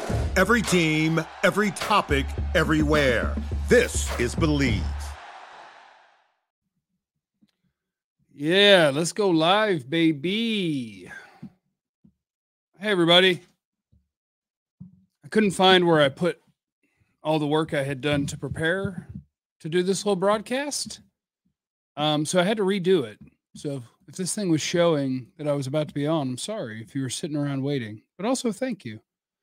Every team, every topic, everywhere. This is Believe. Yeah, let's go live, baby. Hey, everybody. I couldn't find where I put all the work I had done to prepare to do this little broadcast. So I had to redo it. So if this thing was showing that I was about to be on, I'm sorry if you were sitting around waiting, but also thank you.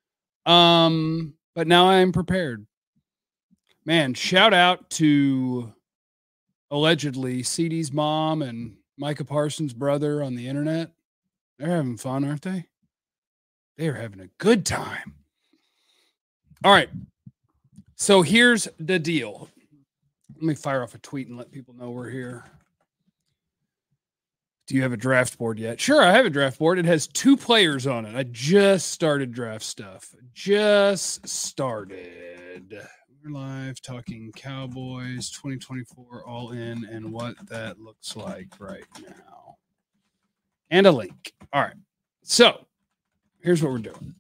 But now I am prepared. Man, shout out to allegedly CD's mom and Micah Parsons' brother on the internet. They're having fun, aren't they? They're having a good time. All right. So here's the deal. Let me fire off a tweet and let people know we're here. Do you have a draft board yet? Sure, I have a draft board. It has 2 players on it. I just started draft stuff. Just started. We're live talking Cowboys 2024 all in and what that looks like right now. And a link. All right. So here's what we're doing.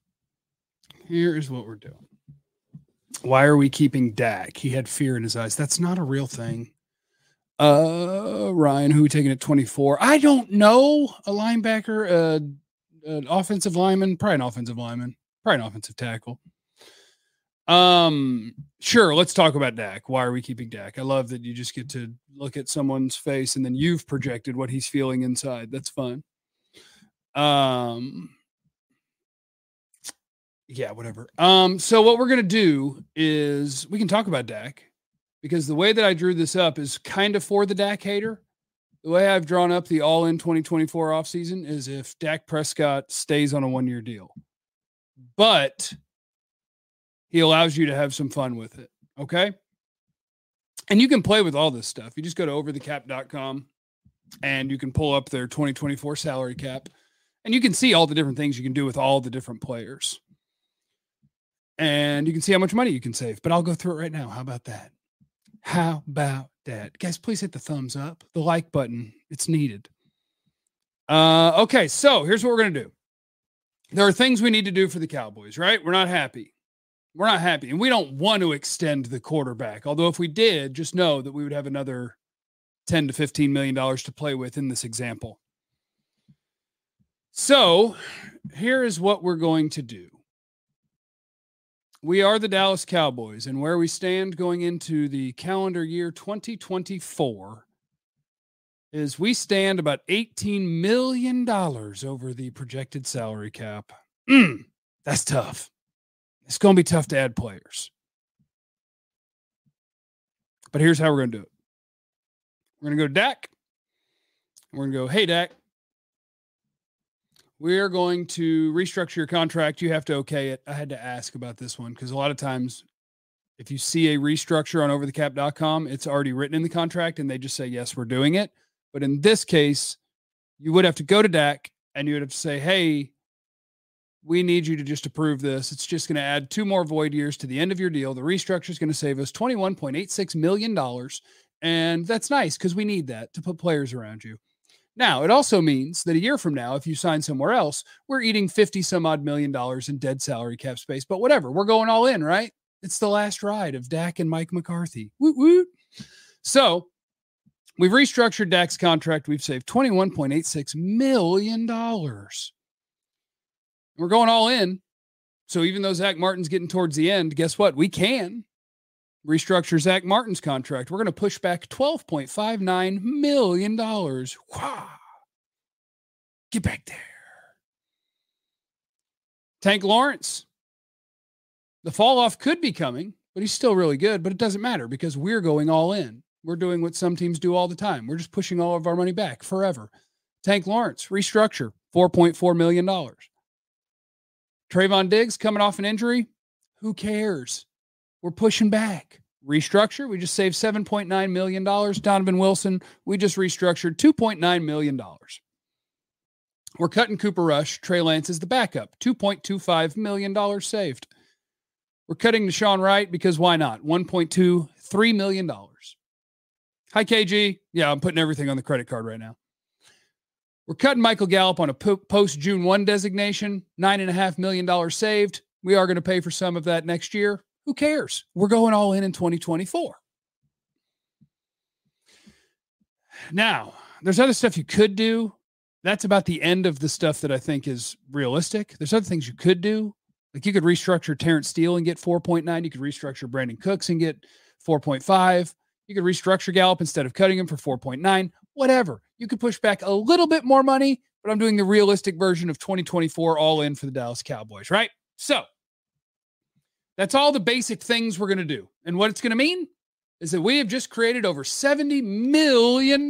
Why are we keeping Dak? He had fear in his eyes. That's not a real thing. Ryan, who we taking at 24? I don't know. A linebacker, an offensive lineman, probably an offensive lineman, probably an offensive tackle. Sure. Let's talk about Dak. Why are we keeping Dak? I love that you just get to look at someone's face and then you've projected what he's feeling inside. That's fun. Yeah, whatever. So what we're going to do is we can talk about Dak because the way that I drew this up is kind of for the Dak hater. The way I've drawn up the all-in 2024 offseason is if Dak Prescott stays on a 1-year deal, but he allows you to have some fun with it. Okay. And you can play with all this stuff. You just go to overthecap.com and you can pull up their 2024 salary cap and you can see all the different things you can do with all the different players. And you can see how much money you can save, but I'll go through it right now. How about that? Guys, please hit the thumbs up, the like button. It's needed. Okay. So here's what we're going to do. There are things we need to do for the Cowboys, right? We're not happy. And we don't want to extend the quarterback. Although if we did, just know that we would have another $10 to $15 million to play with in this example. So here is what we're going to do. We are the Dallas Cowboys, and where we stand going into the calendar year 2024 is we stand about $18 million over the projected salary cap. That's tough. It's going to be tough to add players. But here's how we're going to do it. We're going to go to Dak. We're going to go, hey, Dak. We are going to restructure your contract. You have to okay it. I had to ask about this one because a lot of times if you see a restructure on overthecap.com, it's already written in the contract and they just say, yes, we're doing it. But in this case, you would have to go to Dak and you would have to say, hey, we need you to just approve this. It's just going to add 2 more void years to the end of your deal. The restructure is going to save us $21.86 million. And that's nice because we need that to put players around you. Now, it also means that a year from now, if you sign somewhere else, we're eating 50 some odd million dollars in dead salary cap space. But whatever, we're going all in, right? It's the last ride of Dak and Mike McCarthy. Woot woot. So we've restructured Dak's contract. We've saved $21.86 million. We're going all in. So even though Zach Martin's getting towards the end, guess what? We can restructure Zach Martin's contract. We're going to push back $12.59 million. Wow. Get back there. Tank Lawrence. The fall off could be coming, but he's still really good, but it doesn't matter because we're going all in. We're doing what some teams do all the time. We're just pushing all of our money back forever. Tank Lawrence, restructure, $4.4 million. Trayvon Diggs coming off an injury. Who cares? We're pushing back. Restructure, we just saved $7.9 million. Donovan Wilson, we just restructured $2.9 million. We're cutting Cooper Rush. Trey Lance is the backup. $2.25 million saved. We're cutting Deshaun Wright because why not? $1.23 million. Hi, KG. Yeah, I'm putting everything on the credit card right now. We're cutting Michael Gallup on a post-June 1 designation. $9.5 million saved. We are going to pay for some of that next year. Who cares? We're going all in 2024. Now, there's other stuff you could do. That's about the end of the stuff that I think is realistic. There's other things you could do. Like you could restructure Terrence Steele and get 4.9. You could restructure Brandon Cooks and get 4.5. You could restructure Gallup instead of cutting him for 4.9. Whatever. You could push back a little bit more money, but I'm doing the realistic version of 2024 all in for the Dallas Cowboys, right? So that's all the basic things we're going to do. And what it's going to mean is that we have just created over $70 million.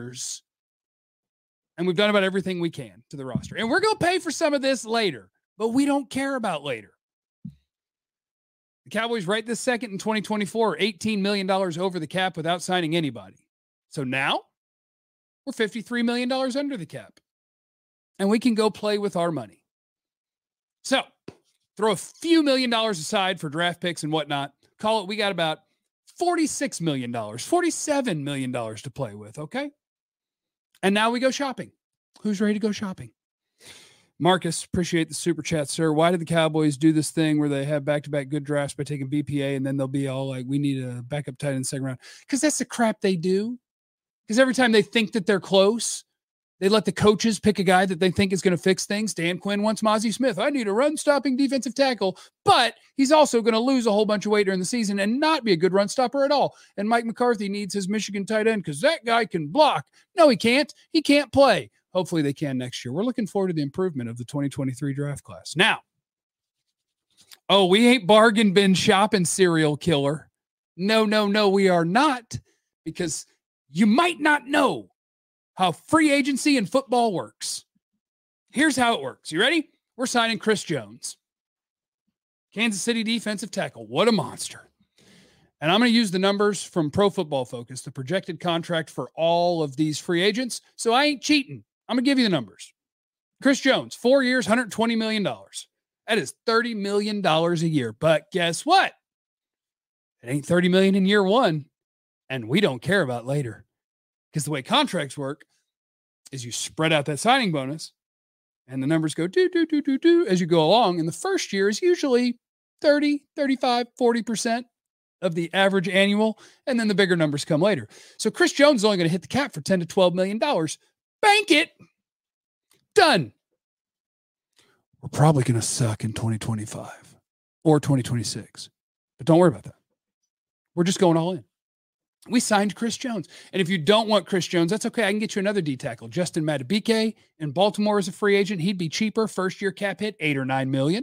And we've done about everything we can to the roster. And we're going to pay for some of this later, but we don't care about later. The Cowboys right this second in 2024 are $18 million over the cap without signing anybody. So now we're $53 million under the cap. And we can go play with our money. So throw a few $1 million aside for draft picks and whatnot. Call it, we got about $46 million, $47 million to play with, okay? And now we go shopping. Who's ready to go shopping? Marcus, appreciate the super chat, sir. Why did the Cowboys do this thing where they have back-to-back good drafts by taking BPA and then they'll be all like, we need a backup tight end in the second round? Because that's the crap they do. Because every time they think that they're close, they let the coaches pick a guy that they think is going to fix things. Dan Quinn wants Mozzie Smith. I need a run-stopping defensive tackle, but he's also going to lose a whole bunch of weight during the season and not be a good run stopper at all. And Mike McCarthy needs his Michigan tight end because that guy can block. No, he can't. He can't play. Hopefully they can next year. We're looking forward to the improvement of the 2023 draft class. Now, we ain't bargain bin shopping, serial killer. No, we are not, because you might not know how free agency in football works. Here's how it works. You ready? We're signing Chris Jones, Kansas City defensive tackle. What a monster. And I'm going to use the numbers from Pro Football Focus, the projected contract for all of these free agents. So I ain't cheating. I'm going to give you the numbers. Chris Jones, 4 years, $120 million. That is $30 million a year. But guess what? It ain't $30 million in year one. And we don't care about later. Because the way contracts work is you spread out that signing bonus and the numbers go do as you go along. And the first year is usually 30, 35, 40% of the average annual. And then the bigger numbers come later. So Chris Jones is only going to hit the cap for $10 to $12 million. Bank it. Done. We're probably going to suck in 2025 or 2026. But don't worry about that. We're just going all in. We signed Chris Jones. And if you don't want Chris Jones, that's okay. I can get you another D tackle. Justin Madubuike in Baltimore as a free agent. He'd be cheaper. First year cap hit, $8 or $9 million.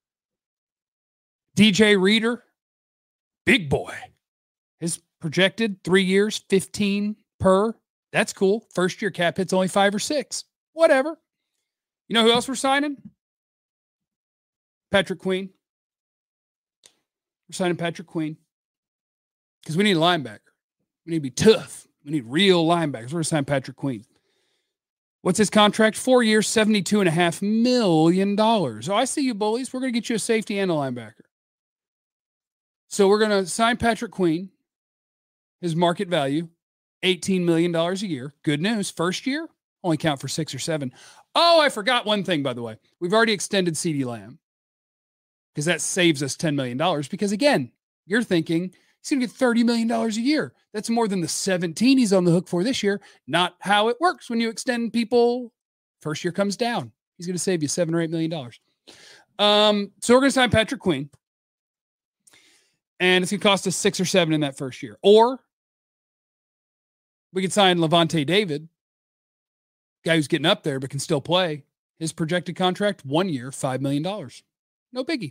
DJ Reader, big boy. His projected 3 years, 15 per. That's cool. First year cap hit's only 5 or 6. Whatever. You know who else we're signing? Patrick Queen. We're signing Patrick Queen because we need a linebacker. We need to be tough. We need real linebackers. We're going to sign Patrick Queen. What's his contract? 4 years, $72.5 million. Oh, I see you, bullies. We're going to get you a safety and a linebacker. So we're going to sign Patrick Queen. His market value, $18 million a year. Good news. First year, only count for 6 or 7. Oh, I forgot one thing, by the way. We've already extended CeeDee Lamb because that saves us $10 million. Because, again, you're thinking he's going to get $30 million a year. That's more than the 17 he's on the hook for this year. Not how it works when you extend people. First year comes down. He's going to save you $7 or $8 million. So we're going to sign Patrick Queen. And it's going to cost us 6 or 7 in that first year. Or we could sign Levante David, guy who's getting up there but can still play. His projected contract, 1 year, $5 million. No biggie.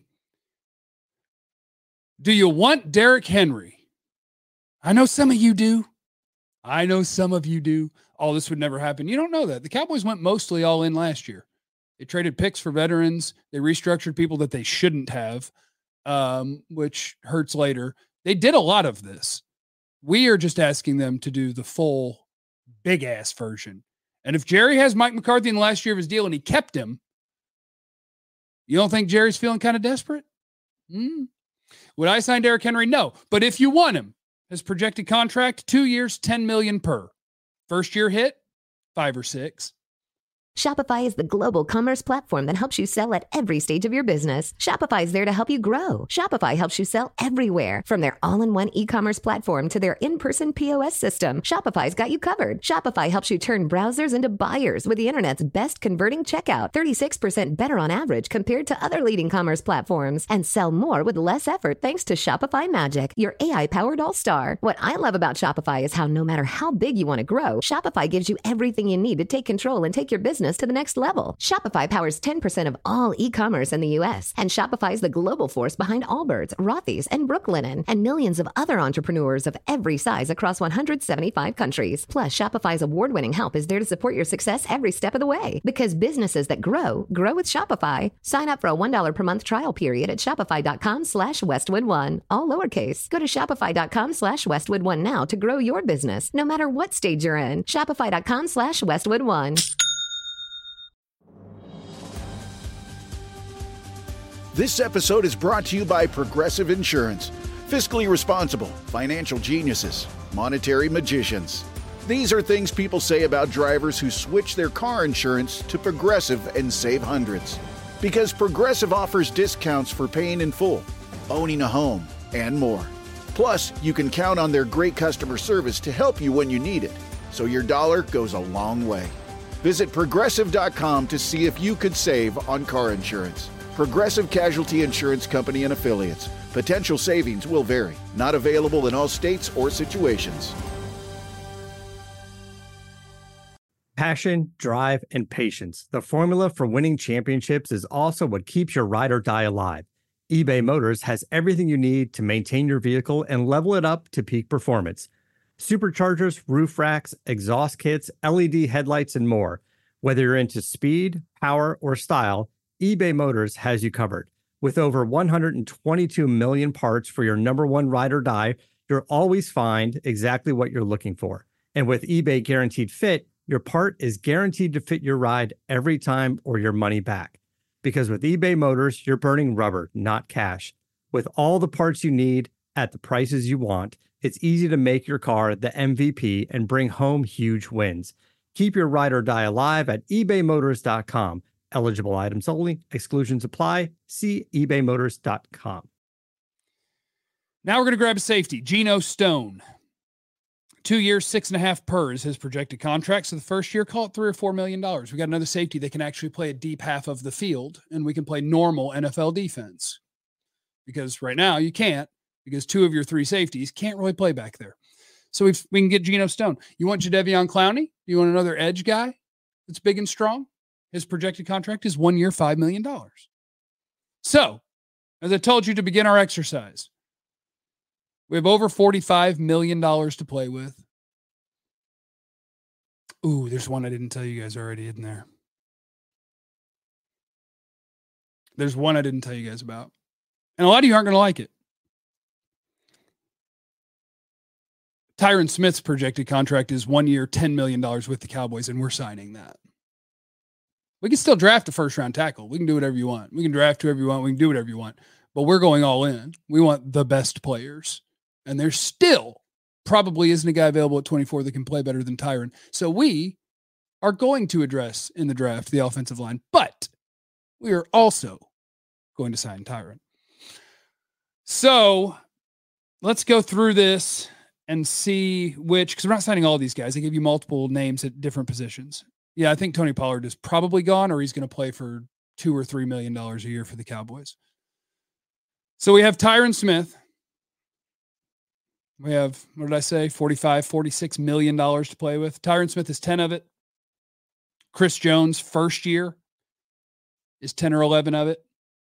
Do you want Derrick Henry? I know some of you do. Oh, this would never happen. You don't know that. The Cowboys went mostly all in last year. They traded picks for veterans. They restructured people that they shouldn't have, which hurts later. They did a lot of this. We are just asking them to do the full big-ass version. And if Jerry has Mike McCarthy in the last year of his deal and he kept him, you don't think Jerry's feeling kind of desperate? Would I sign Derrick Henry? No. But if you want him, his projected contract, 2 years, $10 million per. First year hit, 5 or 6. Shopify is the global commerce platform that helps you sell at every stage of your business. Shopify is there to help you grow. Shopify helps you sell everywhere, from their all-in-one e-commerce platform to their in-person POS system. Shopify's got you covered. Shopify helps you turn browsers into buyers with the internet's best converting checkout, 36% better on average compared to other leading commerce platforms, and sell more with less effort thanks to Shopify Magic, your AI-powered all-star. What I love about Shopify is how no matter how big you want to grow, Shopify gives you everything you need to take control and take your business to the next level. Shopify powers 10% of all e-commerce in the U.S., and Shopify is the global force behind Allbirds, Rothy's, and Brooklinen, and millions of other entrepreneurs of every size across 175 countries. Plus, Shopify's award-winning help is there to support your success every step of the way. Because businesses that grow with Shopify. Sign up for a $1 per month trial period at shopify.com/Westwood1, all lowercase. Go to shopify.com/Westwood1 now to grow your business, no matter what stage you're in. Shopify.com/Westwood1. This episode is brought to you by Progressive Insurance. Fiscally responsible, financial geniuses, monetary magicians. These are things people say about drivers who switch their car insurance to Progressive and save hundreds. Because Progressive offers discounts for paying in full, owning a home, and more. Plus, you can count on their great customer service to help you when you need it, so your dollar goes a long way. Visit Progressive.com to see if you could save on car insurance. Progressive Casualty Insurance Company and Affiliates. Potential savings will vary. Not available in all states or situations. Passion, drive, and patience. The formula for winning championships is also what keeps your ride or die alive. eBay Motors has everything you need to maintain your vehicle and level it up to peak performance. Superchargers, roof racks, exhaust kits, LED headlights, and more. Whether you're into speed, power, or style, eBay Motors has you covered. With over 122 million parts for your number one ride or die, you'll always find exactly what you're looking for. And with eBay Guaranteed Fit, your part is guaranteed to fit your ride every time or your money back. Because with eBay Motors, you're burning rubber, not cash. With all the parts you need at the prices you want, it's easy to make your car the MVP and bring home huge wins. Keep your ride or die alive at ebaymotors.com. Eligible items only. Exclusions apply. See ebaymotors.com. Now we're going to grab a safety. Geno Stone. 2 years, 6.5 per is his projected contract. So the first year, call it $3 or $4 million. We got another safety that can actually play a deep half of the field, and we can play normal NFL defense. Because right now you can't, because 2 of your 3 safeties can't really play back there. So we can get Geno Stone. You want Jadeveon Clowney? You want another edge guy that's big and strong? His projected contract is 1 year, $5 million. So, as I told you to begin our exercise, we have over $45 million to play with. Ooh, there's one I didn't tell you guys already, isn't there? There's one I didn't tell you guys about. And a lot of you aren't going to like it. Tyron Smith's projected contract is 1 year, $10 million with the Cowboys, and we're signing that. We can still draft a first-round tackle. We can do whatever you want. We can draft whoever you want. We can do whatever you want. But we're going all in. We want the best players. And there still probably isn't a guy available at 24 that can play better than Tyron. So we are going to address in the draft the offensive line. But we are also going to sign Tyron. So let's go through this and see which, because we're not signing all these guys. I give you multiple names at different positions. Yeah, I think Tony Pollard is probably gone, or he's going to play for $2 or $3 million a year for the Cowboys. So we have Tyron Smith. We have, what did I say? $46 million to play with. Tyron Smith is 10 of it. Chris Jones, first year, is 10 or 11 of it.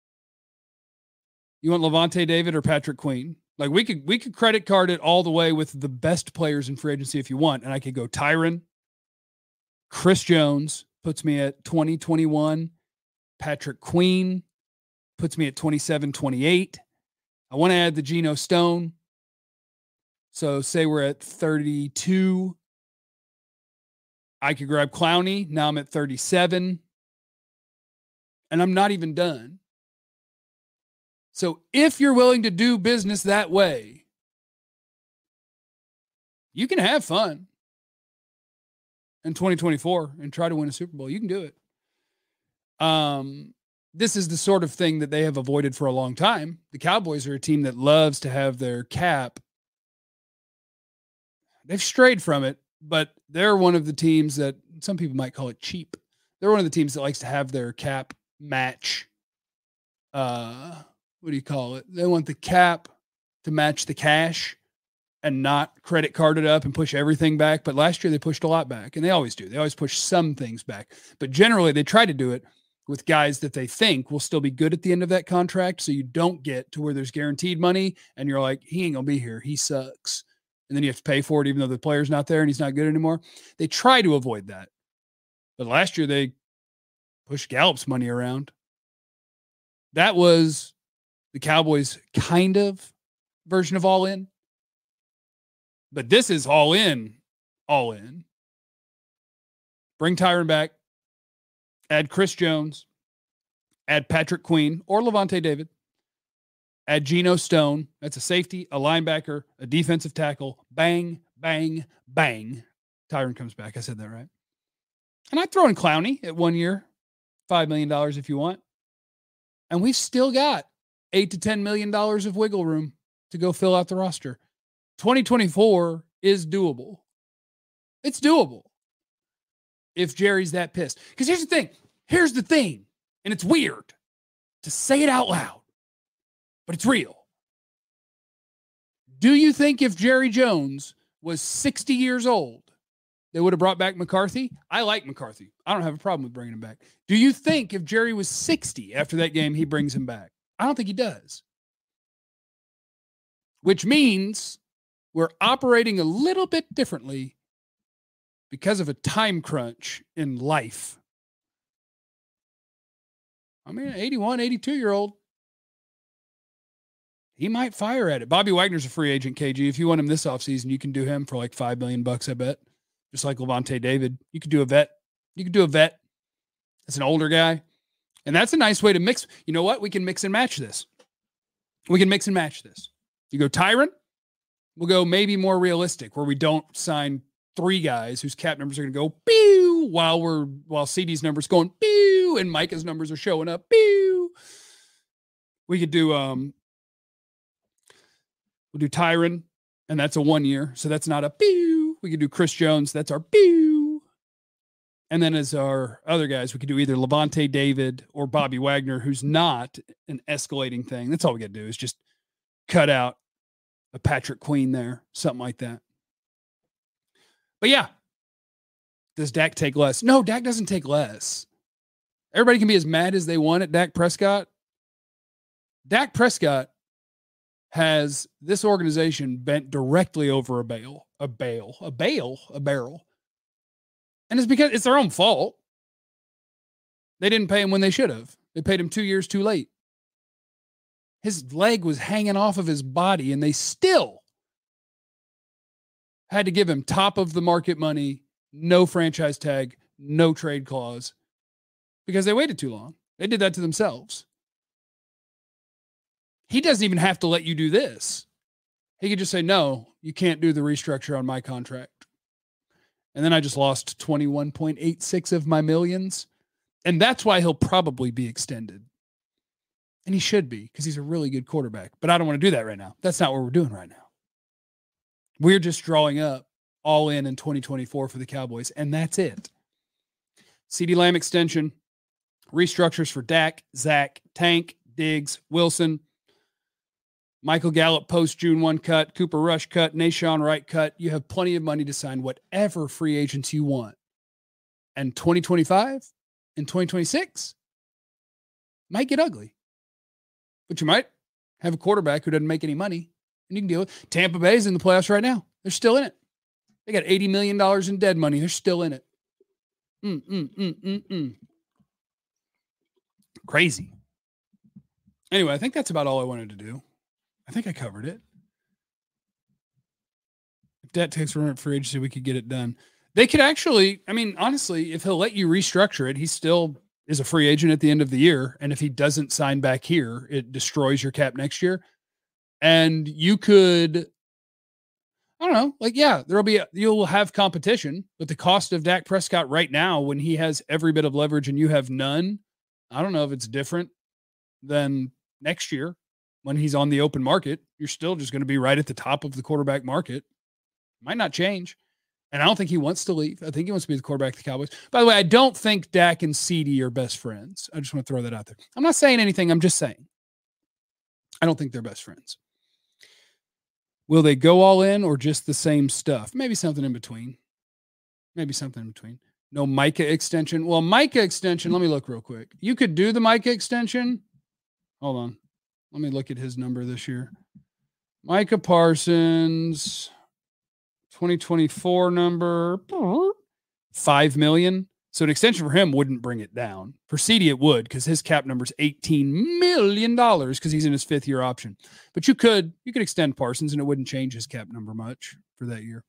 You want Levante David or Patrick Queen? Like we could credit card it all the way with the best players in free agency if you want. And I could go Tyron, Chris Jones puts me at 2021. Patrick Queen puts me at 27, 28. I want to add the Geno Stone. So say we're at 32. I could grab Clowney. Now I'm at 37. And I'm not even done. So if you're willing to do business that way, you can have fun. in 2024 and try to win a Super Bowl. You can do it. This is the sort of thing that they have avoided for a long time. The Cowboys are a team that loves to have their cap. They've strayed from it, but they're one of the teams that some people might call it cheap. They're one of the teams that likes to have their cap match. What do you call it? They want the cap to match the cash and not credit card it up and push everything back. But last year they pushed a lot back, and they always do. They always push some things back, but generally they try to do it with guys that they think will still be good at the end of that contract. So you don't get to where there's guaranteed money and you're like, he ain't gonna be here. He sucks. And then you have to pay for it, even though the player's not there and he's not good anymore. They try to avoid that. But last year they pushed Gallup's money around. That was the Cowboys' kind of version of all in. But this is all in, all in. Bring Tyron back. Add Chris Jones. Add Patrick Queen or Levante David. Add Geno Stone. That's a safety, a linebacker, a defensive tackle. Bang, bang, bang. Tyron comes back. I said that right. And I'd throw in Clowney at 1 year. $5 million if you want. And we've still got $8 to $10 million of wiggle room to go fill out the roster. 2024 is doable. It's doable if Jerry's that pissed. Because here's the thing, and it's weird to say it out loud, but it's real. Do you think if Jerry Jones was 60 years old, they would have brought back McCarthy? I like McCarthy. I don't have a problem with bringing him back. Do you think if Jerry was 60 after that game, he brings him back? I don't think he does. Which means we're operating a little bit differently because of a time crunch in life. I mean, an 81, 82-year-old, he might fire at it. Bobby Wagner's a free agent, KG. If you want him this offseason, you can do him for like $5 million, I bet. Just like Levante David. You could do a vet. That's an older guy. And that's a nice way to mix. You know what? We can mix and match this. You go Tyron. We'll go maybe more realistic where we don't sign 3 guys whose cap numbers are going to go pew while CD's numbers going pew and Micah's numbers are showing up pew. We could do we'll do Tyron, and that's a 1 year, so that's not a pew. We could do Chris Jones, that's our pew. And then as our other guys, we could do either Levante David or Bobby Wagner, who's not an escalating thing. That's all we got to do is just cut out a Patrick Queen there, something like that. But yeah, does Dak take less? No, Dak doesn't take less. Everybody can be as mad as they want at Dak Prescott. Dak Prescott has this organization bent directly over a barrel. And it's because it's their own fault. They didn't pay him when they should have. They paid him 2 years too late. His leg was hanging off of his body, and they still had to give him top of the market money, no franchise tag, no trade clause, because they waited too long. They did that to themselves. He doesn't even have to let you do this. He could just say, no, you can't do the restructure on my contract. And then I just lost 21.86 of my millions. And that's why he'll probably be extended. And he should be, because he's a really good quarterback. But I don't want to do that right now. That's not what we're doing right now. We're just drawing up all in 2024 for the Cowboys, and that's it. CeeDee Lamb extension, restructures for Dak, Zach, Tank, Diggs, Wilson, Michael Gallup post-June 1 cut, Cooper Rush cut, Nahshon Wright cut. You have plenty of money to sign whatever free agents you want. And 2025 and 2026 might get ugly. But you might have a quarterback who doesn't make any money, and you can deal with it. Tampa Bay's in the playoffs right now. They're still in it. They got $80 million in dead money. They're still in it. Crazy. Anyway, I think that's about all I wanted to do. I think I covered it. If that takes for free agency, we could get it done. They could actually, I mean, honestly, if he'll let you restructure it, he still is a free agent at the end of the year. And if he doesn't sign back here, it destroys your cap next year. And you could, I don't know. Like, yeah, you'll have competition, but the cost of Dak Prescott right now, when he has every bit of leverage and you have none, I don't know if it's different than next year when he's on the open market. You're still just going to be right at the top of the quarterback market. Might not change. And I don't think he wants to leave. I think he wants to be the quarterback of the Cowboys. By the way, I don't think Dak and CeeDee are best friends. I just want to throw that out there. I'm not saying anything. I'm just saying. I don't think they're best friends. Will they go all in or just the same stuff? Maybe something in between. No Micah extension. Well, Micah extension, let me look real quick. You could do the Micah extension. Hold on. Let me look at his number this year. Micah Parsons, 2024 number, $5 million. So an extension for him wouldn't bring it down. For CeeDee, it would, because his cap number is $18 million because he's in his 5th year option. But you could extend Parsons and it wouldn't change his cap number much for that year.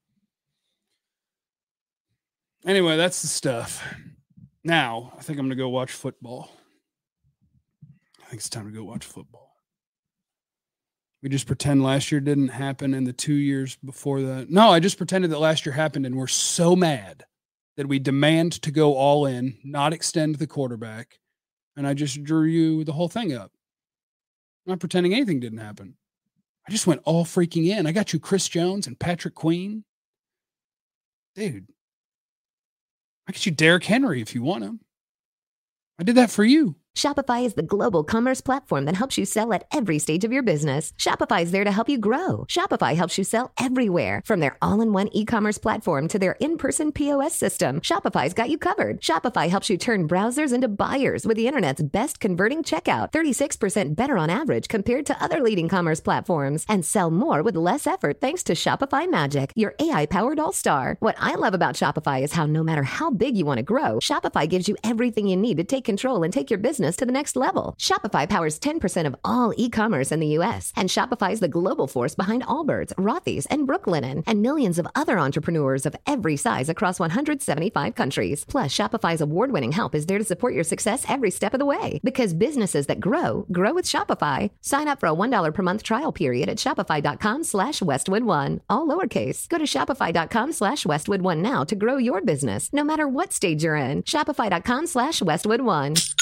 Anyway, that's the stuff. Now, I think I'm going to go watch football. I think it's time to go watch football. We just pretend last year didn't happen and the 2 years before that. No, I just pretended that last year happened and we're so mad that we demand to go all in, not extend the quarterback. And I just drew you the whole thing up. I'm not pretending anything didn't happen. I just went all freaking in. I got you Chris Jones and Patrick Queen. Dude, I get you Derrick Henry if you want him. I did that for you. Shopify is the global commerce platform that helps you sell at every stage of your business. Shopify is there to help you grow. Shopify helps you sell everywhere, from their all-in-one e-commerce platform to their in-person POS system. Shopify's got you covered. Shopify helps you turn browsers into buyers with the internet's best converting checkout, 36% better on average compared to other leading commerce platforms, and sell more with less effort thanks to Shopify Magic, your AI-powered all-star. What I love about Shopify is how no matter how big you want to grow, Shopify gives you everything you need to take control and take your business to the next level. Shopify powers 10% of all e-commerce in the U.S., and Shopify is the global force behind Allbirds, Rothy's, and Brooklinen, and millions of other entrepreneurs of every size across 175 countries. Plus, Shopify's award-winning help is there to support your success every step of the way. Because businesses that grow with Shopify. Sign up for a $1 per month trial period at shopify.com/Westwood1, all lowercase. Go to shopify.com/Westwood1 now to grow your business, no matter what stage you're in. Shopify.com/Westwood1.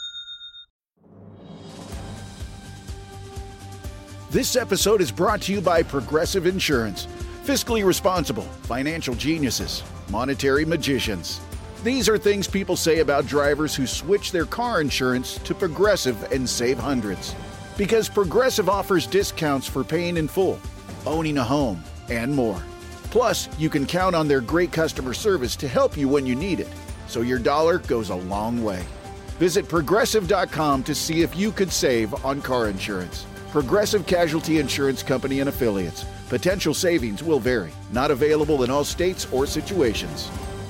This episode is brought to you by Progressive Insurance. Fiscally responsible, financial geniuses, monetary magicians. These are things people say about drivers who switch their car insurance to Progressive and save hundreds. Because Progressive offers discounts for paying in full, owning a home, and more. Plus, you can count on their great customer service to help you when you need it, so your dollar goes a long way. Visit Progressive.com to see if you could save on car insurance. Progressive Casualty Insurance Company and Affiliates. Potential savings will vary. Not available in all states or situations.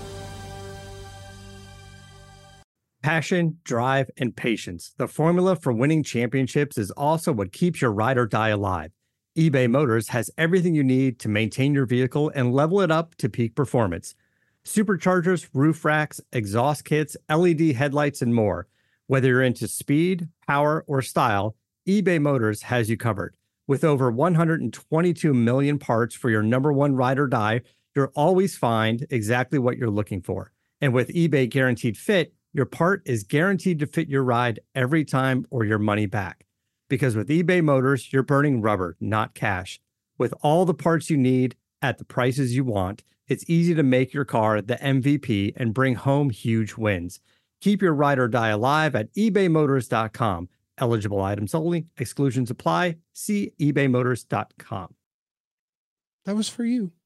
Passion, drive, and patience. The formula for winning championships is also what keeps your ride or die alive. eBay Motors has everything you need to maintain your vehicle and level it up to peak performance. Superchargers, roof racks, exhaust kits, LED headlights, and more. Whether you're into speed, power, or style, eBay Motors has you covered. With over 122 million parts for your number one ride or die, you'll always find exactly what you're looking for. And with eBay Guaranteed Fit, your part is guaranteed to fit your ride every time or your money back. Because with eBay Motors, you're burning rubber, not cash. With all the parts you need at the prices you want, it's easy to make your car the MVP and bring home huge wins. Keep your ride or die alive at ebaymotors.com. Eligible items only. Exclusions apply. See ebaymotors.com. That was for you.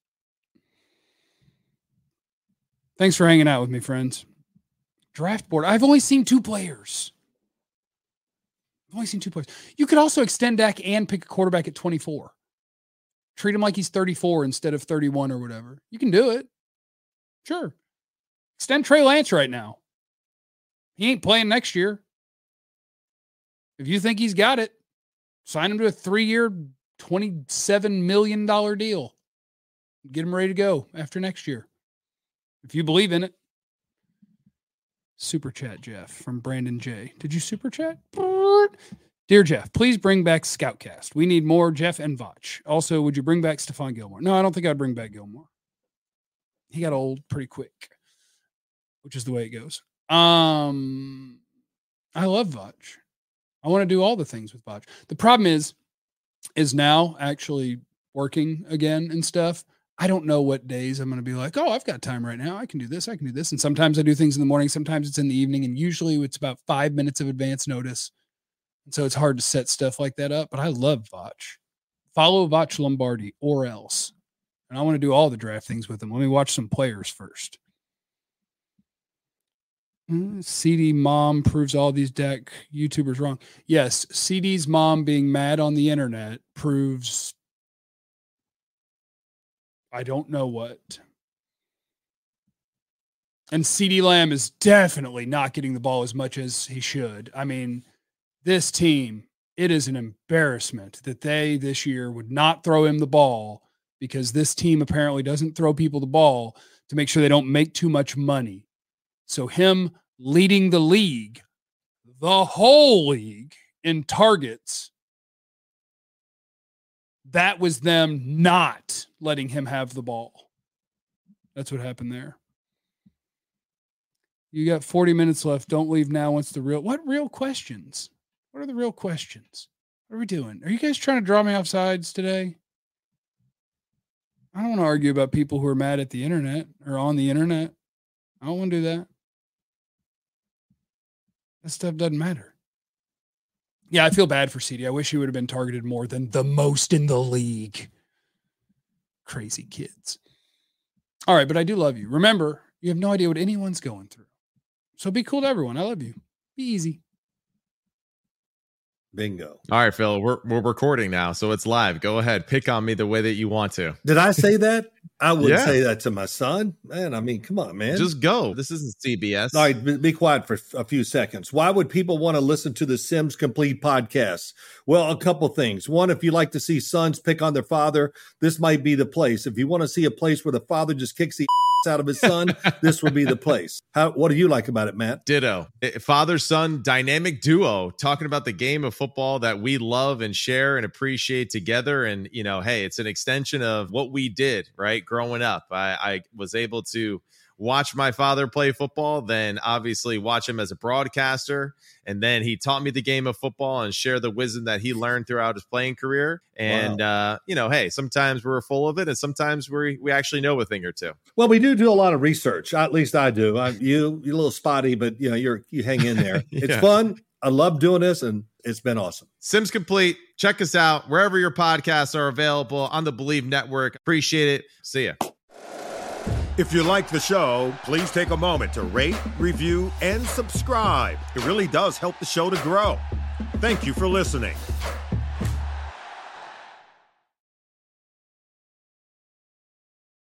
Thanks for hanging out with me, friends. Draft board. I've only seen 2 players. You could also extend Dak and pick a quarterback at 24. Treat him like he's 34 instead of 31 or whatever. You can do it. Sure. Extend Trey Lance right now. He ain't playing next year. If you think he's got it, sign him to a 3-year, $27 million deal. Get him ready to go after next year. If you believe in it. Super chat, Jeff, from Brandon J. Did you super chat? Dear Jeff, please bring back Scoutcast. We need more Jeff and Vach. Also, would you bring back Stephon Gilmore? No, I don't think I'd bring back Gilmore. He got old pretty quick, which is the way it goes. I love Vach. I want to do all the things with Vach. The problem is now actually working again and stuff. I don't know what days I'm going to be like, oh, I've got time right now. I can do this. I can do this. And sometimes I do things in the morning. Sometimes it's in the evening. And usually it's about 5 minutes of advance notice. And so it's hard to set stuff like that up. But I love Vach. Follow Vach Lombardi or else. And I want to do all the draft things with him. Let me watch some players first. CD mom proves all these Dak YouTubers wrong. Yes, CD's mom being mad on the internet proves I don't know what. And CD Lamb is definitely not getting the ball as much as he should. I mean, this team, it is an embarrassment that they this year would not throw him the ball because this team apparently doesn't throw people the ball to make sure they don't make too much money. So him leading the league, the whole league in targets, that was them not letting him have the ball. That's what happened there. You got 40 minutes left. Don't leave now. What real questions? What are the real questions? What are we doing? Are you guys trying to draw me off sides today? I don't want to argue about people who are mad at the internet or on the internet. I don't want to do that. That stuff doesn't matter. Yeah, I feel bad for CD. I wish he would have been targeted more than the most in the league. Crazy kids. All right, but I do love you. Remember, you have no idea what anyone's going through. So be cool to everyone. I love you. Be easy. Bingo. All right, Phil, we're recording now, so it's live. Go ahead. Pick on me the way that you want to. Did I say that? I wouldn't say that to my son. Man, I mean, come on, man. Just go. This isn't CBS. All right, be quiet for a few seconds. Why would people want to listen to the Sims Complete podcast? Well, a couple things. One, if you like to see sons pick on their father, this might be the place. If you want to see a place where the father just kicks the out of his son, this would be the place. What do you like about it, Matt? Ditto. Father-son dynamic duo talking about the game of football that we love and share and appreciate together. And, you know, hey, it's an extension of what we did, right? Growing up, I was able to watch my father play football, then obviously watch him as a broadcaster. And then he taught me the game of football and share the wisdom that he learned throughout his playing career. And, you know, hey, sometimes we're full of it and sometimes we actually know a thing or two. Well, we do a lot of research. At least I do. You're a little spotty, but, you know, you hang in there. It's fun. I love doing this, and it's been awesome. Sims Complete. Check us out wherever your podcasts are available on the Believe Network. Appreciate it. See ya. If you like the show, please take a moment to rate, review, and subscribe. It really does help the show to grow. Thank you for listening.